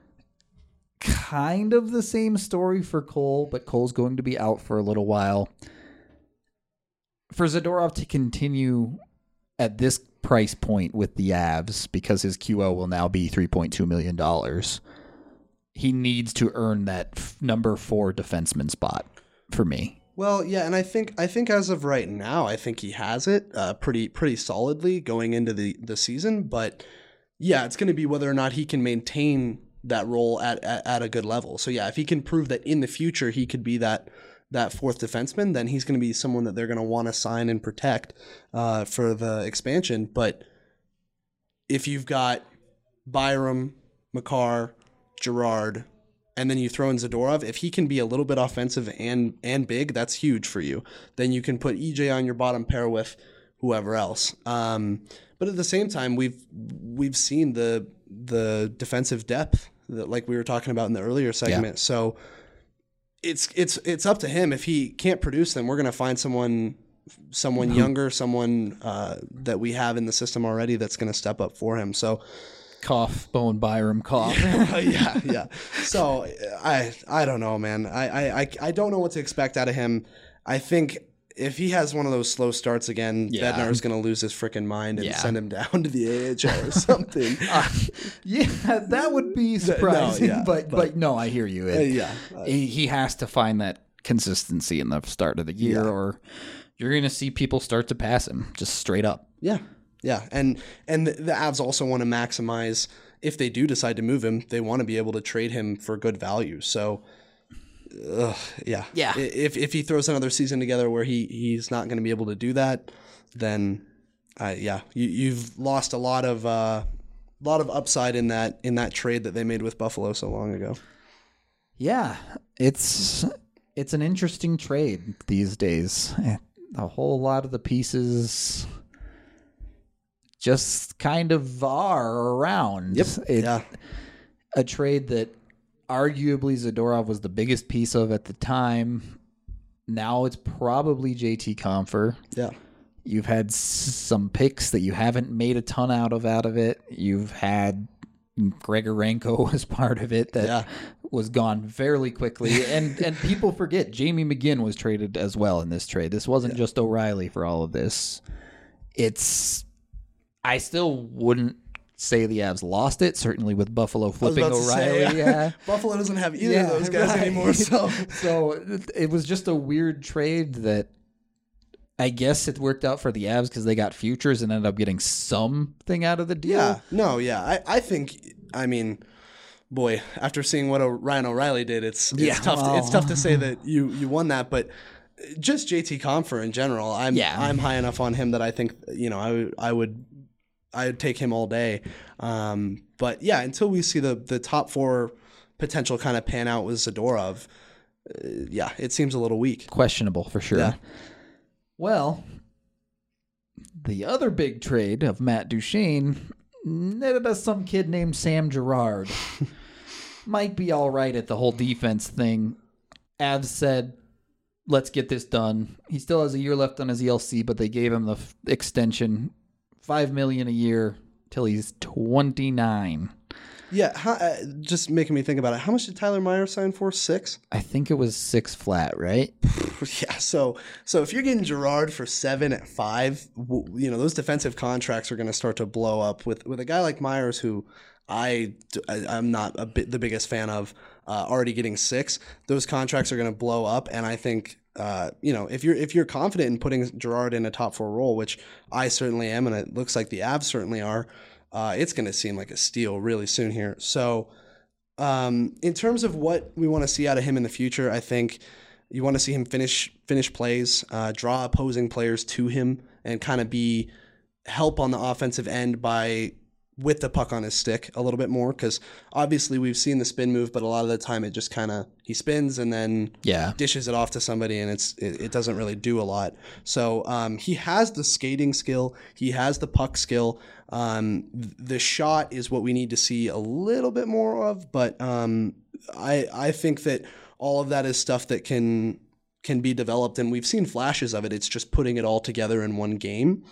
Kind of the same story for Cole, but Cole's going to be out for a little while. For Zadorov to continue at this price point with the Avs, because his QO will now be $3.2 million, he needs to earn that number 4 defenseman spot for me. Well, yeah, and I think as of right now, I think he has it pretty solidly going into the season. But yeah, it's going to be whether or not he can maintain that role at a good level. So yeah, if he can prove that in the future he could be that fourth defenseman, then he's going to be someone that they're going to want to sign and protect for the expansion. But if you've got Byram, Makar, Girard, and then you throw in Zadorov, if he can be a little bit offensive and big, that's huge for you. Then you can put EJ on your bottom pair with whoever else. But at the same time, we've seen the defensive depth that, like we were talking about in the earlier segment. Yeah. So it's up to him. If he can't produce, then we're going to find someone younger, someone that we have in the system already that's going to step up for him. So cough, Bowen Byram, cough. yeah. So I don't know, man. I don't know what to expect out of him. I think if he has one of those slow starts again, Bednar is going to lose his freaking mind and send him down to the AHL or something. That would be surprising. But no, I hear you. He has to find that consistency in the start of the year, or you're going to see people start to pass him just straight up. Yeah. And the Avs also want to maximize, if they do decide to move him, they want to be able to trade him for good value. So If he throws another season together where he's not going to be able to do that, then you've lost a lot of upside in that trade that they made with Buffalo so long ago. Yeah, it's an interesting trade these days. A whole lot of the pieces just kind of are around. Yep. A trade that arguably Zadorov was the biggest piece of at the time. Now it's probably JT Compher. Yeah. You've had some picks that you haven't made a ton out of it. You've had Grigorenko as part of it that was gone fairly quickly. And people forget Jamie McGinn was traded as well in this trade. This wasn't just O'Reilly for all of this. I still wouldn't say the Avs lost it, certainly with Buffalo flipping O'Reilly. Buffalo doesn't have either of those guys anymore. So it was just a weird trade that I guess it worked out for the Avs because they got futures and ended up getting something out of the deal. I think, I mean, boy, after seeing what Ryan O'Reilly did, it's tough. It's tough to say that you won that, but just JT Compher in general, I'm high enough on him that I think I would take him all day. But yeah, until we see the top four potential kind of pan out with Zadorov, it seems a little weak. Questionable for sure. Yeah. Well, the other big trade of Matt Duchene netted us some kid named Sam Girard. Might be all right at the whole defense thing. Avs said, let's get this done. He still has a year left on his ELC, but they gave him the extension, $5 million a year till he's 29. Yeah, just making me think about it. How much did Tyler Meyer sign for? 6? I think it was 6 flat, right? Yeah. So if you're getting Girard for 7 at 5, those defensive contracts are going to start to blow up with a guy like Myers, who I'm not the biggest fan of. Already getting 6, those contracts are going to blow up, and I think if you're confident in putting Girard in a top 4 role, which I certainly am, and it looks like the Avs certainly are. It's going to seem like a steal really soon here. So in terms of what we want to see out of him in the future, I think you want to see him finish plays, draw opposing players to him, and kind of help on the offensive end with the puck on his stick a little bit more, because obviously we've seen the spin move, but a lot of the time it just kind of he spins and then dishes it off to somebody, and it doesn't really do a lot. So he has the skating skill, he has the puck skill. The shot is what we need to see a little bit more of, but I think that all of that is stuff that can be developed, and we've seen flashes of it. It's just putting it all together in one game.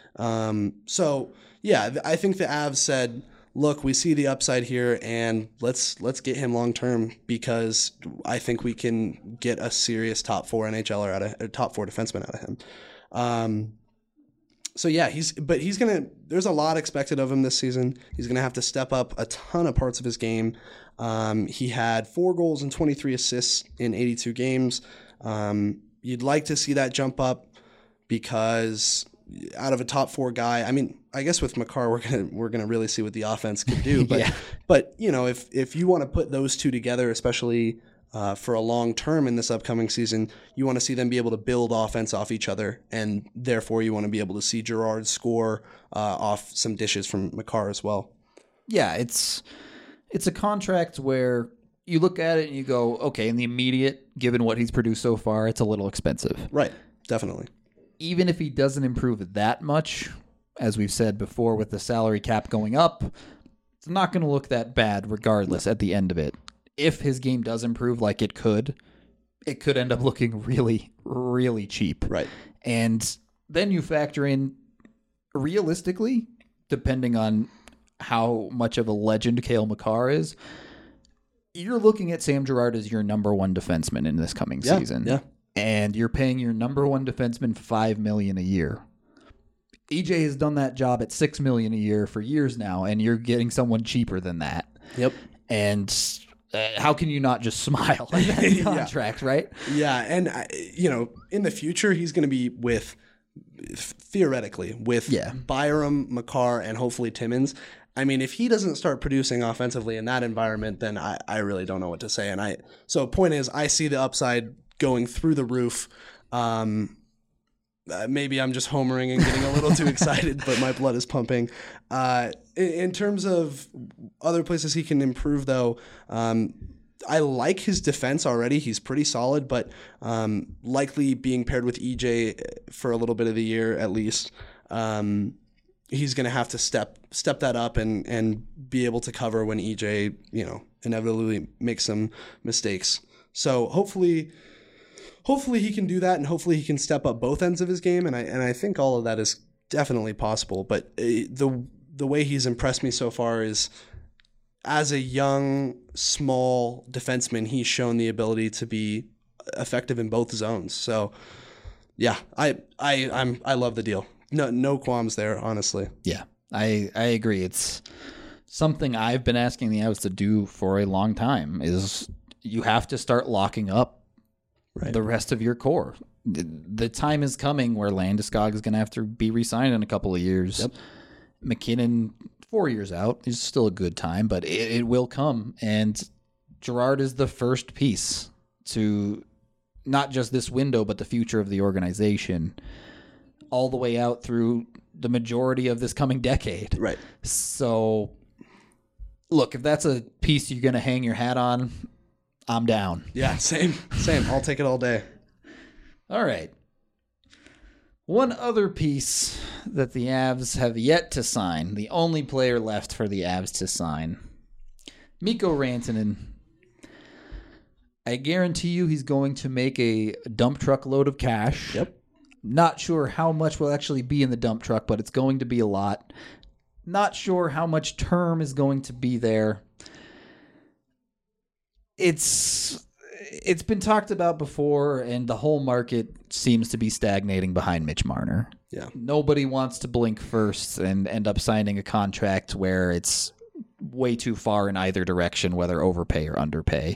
Yeah, I think the Avs said, look, we see the upside here, and let's get him long term, because I think we can get a serious top 4 NHLer top 4 defenseman out of him. There's a lot expected of him this season. He's gonna have to step up a ton of parts of his game. He had 4 goals and 23 assists in 82 games. You'd like to see that jump up, because out of a top 4 guy, I mean, I guess with Makar, we're gonna really see what the offense can do. But but if you want to put those two together, especially for a long term in this upcoming season, you want to see them be able to build offense off each other, and therefore you want to be able to see Girard score off some dishes from Makar as well. Yeah, it's a contract where you look at it and you go, okay, in the immediate, given what he's produced so far, it's a little expensive. Right, definitely. Even if he doesn't improve that much, as we've said before, with the salary cap going up, it's not going to look that bad regardless at the end of it. If his game does improve like it could end up looking really, really cheap. Right. And then you factor in, realistically, depending on how much of a legend Cale Makar is, you're looking at Sam Girard as your number 1 defenseman in this coming season. Yeah. And you're paying your number 1 defenseman $5 million a year. EJ has done that job at $6 million a year for years now, and you're getting someone cheaper than that. Yep. And how can you not just smile at that contract, right? Yeah, and in the future, he's going to be theoretically with Byram, Makar, and hopefully Timmins. I mean, if he doesn't start producing offensively in that environment, then I really don't know what to say. So point is, I see the upside going through the roof. Maybe I'm just homering and getting a little too excited, but my blood is pumping. In terms of other places he can improve, though, I like his defense already. He's pretty solid, but likely being paired with EJ for a little bit of the year at least. He's going to have to step that up and be able to cover when EJ, inevitably make some mistakes. So hopefully he can do that, and hopefully he can step up both ends of his game. And I think all of that is definitely possible. But the way he's impressed me so far is, as a young, small defenseman, he's shown the ability to be effective in both zones. So, yeah, I love the deal. No qualms there, honestly. Yeah, I agree. It's something I've been asking the Avs to do for a long time. Is you have to start locking up the rest of your core. The time is coming where Landeskog is going to have to be re-signed in a couple of years. Yep. McKinnon, 4 years out, is still a good time, but it will come. And Girard is the first piece to not just this window, but the future of the organization, all the way out through the majority of this coming decade. Right. So, look, if that's a piece you're going to hang your hat on, I'm down. Yeah, same. I'll take it all day. All right. One other piece that the Avs have yet to sign, the only player left for the Avs to sign, Mikko Rantanen. I guarantee you he's going to make a dump truck load of cash. Yep. Not sure how much will actually be in the dump truck, but it's going to be a lot. Not sure how much term is going to be there. It's been talked about before, and the whole market seems to be stagnating behind Mitch Marner. Yeah. Nobody wants to blink first and end up signing a contract where it's way too far in either direction, whether overpay or underpay.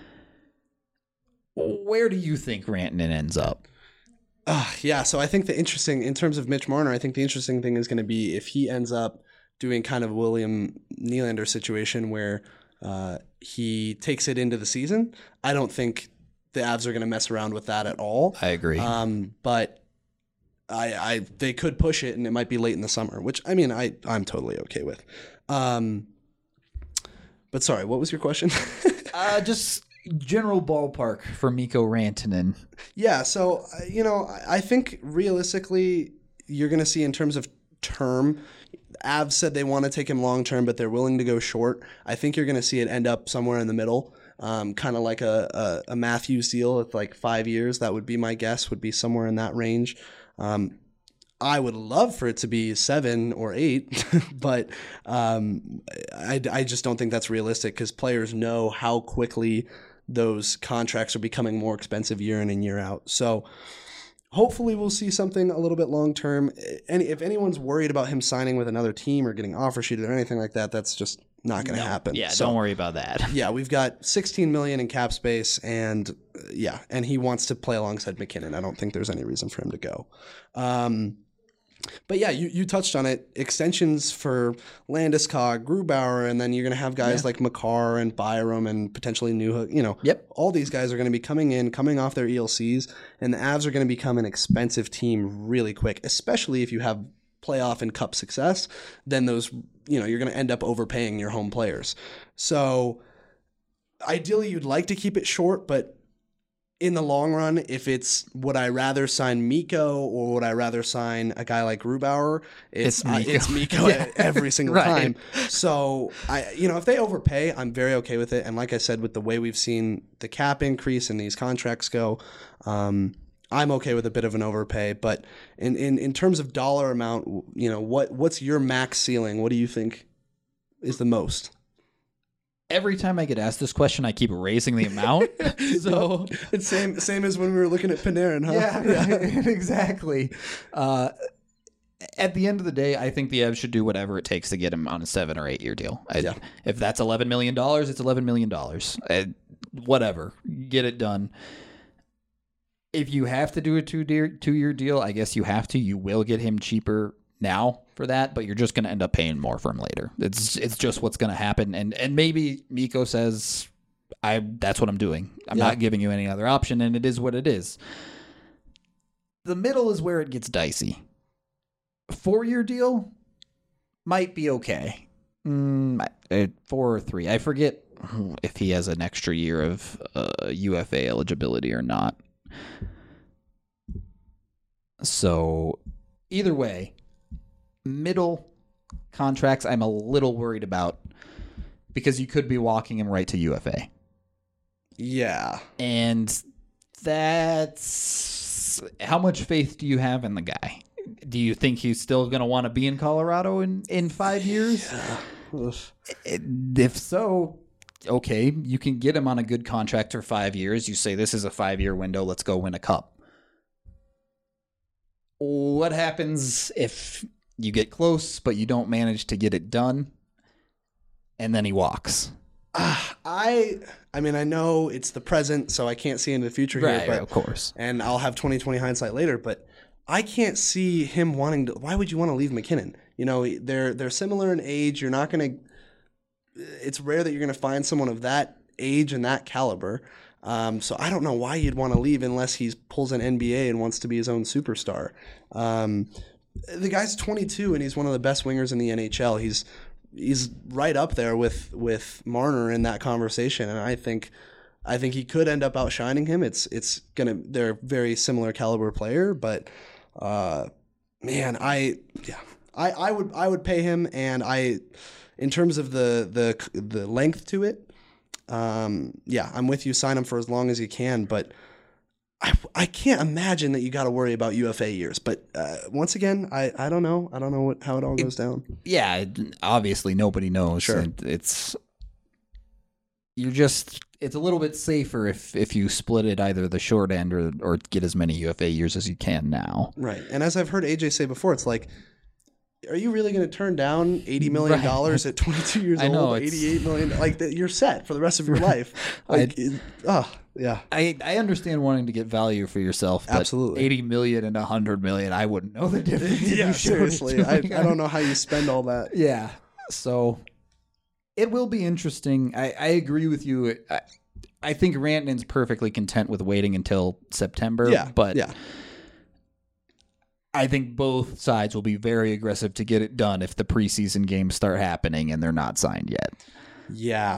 Where do you think Rantanen ends up? Yeah, so I think in terms of Mitch Marner, I think the interesting thing is going to be if he ends up doing kind of a William Nylander situation where he takes it into the season. I don't think the Avs are going to mess around with that at all. I agree. But they could push it, and it might be late in the summer, which, I mean, I'm totally okay with. But sorry, what was your question? Just general ballpark for Mikko Rantanen. Yeah, so, I think realistically you're going to see in terms of term, Avs said they want to take him long term, but they're willing to go short. I think you're going to see it end up somewhere in the middle, kind of like a Matthews deal with like 5 years. That would be my guess, would be somewhere in that range. I would love for it to be 7 or 8, but I just don't think that's realistic because players know how quickly those contracts are becoming more expensive year in and year out. So hopefully we'll see something a little bit long term. And if anyone's worried about him signing with another team or getting offer sheeted or anything like that, that's just not going to happen. Yeah, so, don't worry about that. Yeah, we've got $16 million in cap space, and and he wants to play alongside McKinnon. I don't think there's any reason for him to go. But yeah, you touched on it. Extensions for Landeskog, Grubauer, and then you're going to have guys like Makar and Byram and potentially Newhook. Yep. All these guys are going to be coming off their ELCs, and the Avs are going to become an expensive team really quick, especially if you have playoff and cup success. Then those, you're going to end up overpaying your home players. So ideally, you'd like to keep it short, but in the long run, if it's would I rather sign Mikko or would I rather sign a guy like Grubauer, it's Mikko every single time. So if they overpay, I'm very okay with it. And like I said, with the way we've seen the cap increase and these contracts go, I'm okay with a bit of an overpay. But in terms of dollar amount, what's your max ceiling? What do you think is the most? Every time I get asked this question, I keep raising the amount. So it's same as when we were looking at Panarin, huh? Yeah, exactly. At the end of the day, I think the Avs should do whatever it takes to get him on a 7 or 8 year deal. If that's $11 million, it's $11 million. Whatever, get it done. If you have to do a 2-year deal, I guess you have to. You will get him cheaper now for that, but you're just going to end up paying more for him later. It's just what's going to happen. And maybe Mikko says, that's what I'm doing. I'm not giving you any other option, and it is what it is. The middle is where it gets dicey. 4-year deal might be okay. 4 or 3. I forget if he has an extra year of UFA eligibility or not. So either way, middle contracts I'm a little worried about because you could be walking him right to UFA. Yeah. And that's... How much faith do you have in the guy? Do you think he's still going to want to be in Colorado in 5 years? Yeah. If so, okay, you can get him on a good contract for 5 years. You say, this is a 5-year window, let's go win a cup. What happens if you get close, but you don't manage to get it done, and then he walks? I mean, I know it's the present, so I can't see into the future here. But, of course. And I'll have 20/20 hindsight later, but I can't see him wanting to. Why would you want to leave McKinnon? You know, they're similar in age. You're not going to. It's rare that you're going to find someone of that age and that caliber. So I don't know why you'd want to leave unless he pulls an NBA and wants to be his own superstar. The guy's 22 and he's one of the best wingers in the NHL. He's right up there with Marner in that conversation, and I think he could end up outshining him. They're a very similar caliber player, but man, I would pay him, and in terms of the length to it, I'm with you. Sign him for as long as you can, but I can't imagine that you got to worry about UFA years. But once again, I don't know. I don't know how it all goes down. Yeah, obviously nobody knows. Sure. It's a little bit safer if you split it either the short end or get as many UFA years as you can now. Right. And as I've heard AJ say before, it's like, are you really going to turn down $80 million at 22 years old? I know, $88 million. Like, you're set for the rest of your life. Like, yeah. I understand wanting to get value for yourself, but absolutely. $80 million and $100 million, I wouldn't know the difference. Yeah, seriously. I don't know how you spend all that. Yeah. So it will be interesting. I agree with you. I think Rantanen's perfectly content with waiting until September. Yeah, but yeah. I think both sides will be very aggressive to get it done if the preseason games start happening and they're not signed yet. Yeah,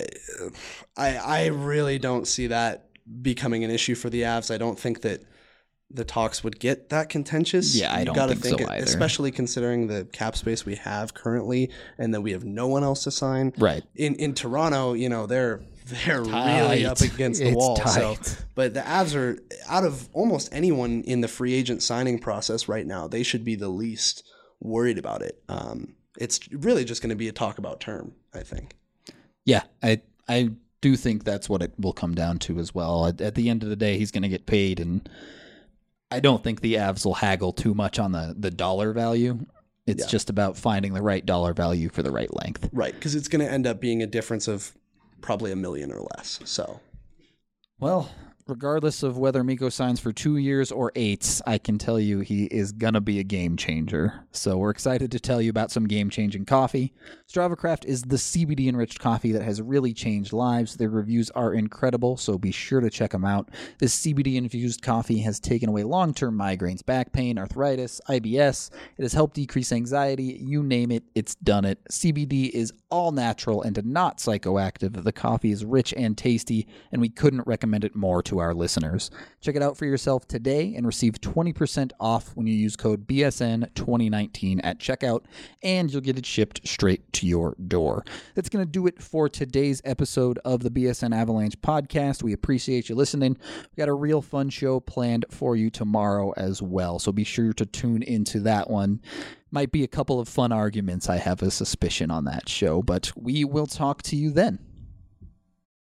I really don't see that becoming an issue for the Avs. I don't think that the talks would get that contentious. Yeah, I don't think so either. Especially considering the cap space we have currently and that we have no one else to sign. Right. In Toronto, you know, they're really up against the wall. Tight. So, but the Avs are, out of almost anyone in the free agent signing process right now, they should be the least worried about it. It's really just going to be a talk about term, I think. Yeah, I do think that's what it will come down to as well. At the end of the day, he's going to get paid, and I don't think the Avs will haggle too much on the dollar value. It's just about finding the right dollar value for the right length. Right, because it's going to end up being a difference of probably $1 million or less. So, well, regardless of whether Mikko signs for 2 years or 8, I can tell you he is going to be a game changer. So we're excited to tell you about some game-changing coffee. StravaCraft is the CBD-enriched coffee that has really changed lives. Their reviews are incredible, so be sure to check them out. This CBD-infused coffee has taken away long-term migraines, back pain, arthritis, IBS. It has helped decrease anxiety. You name it, it's done it. CBD is all natural and not psychoactive. The coffee is rich and tasty, and we couldn't recommend it more to our listeners. Check it out for yourself today and receive 20% off when you use code BSN2019 at checkout, and you'll get it shipped straight to your door. That's going to do it for today's episode of the BSN Avalanche podcast. We appreciate you listening. We've got a real fun show planned for you tomorrow as well, so be sure to tune into that one. Might be a couple of fun arguments, I have a suspicion, on that show, but we will talk to you then.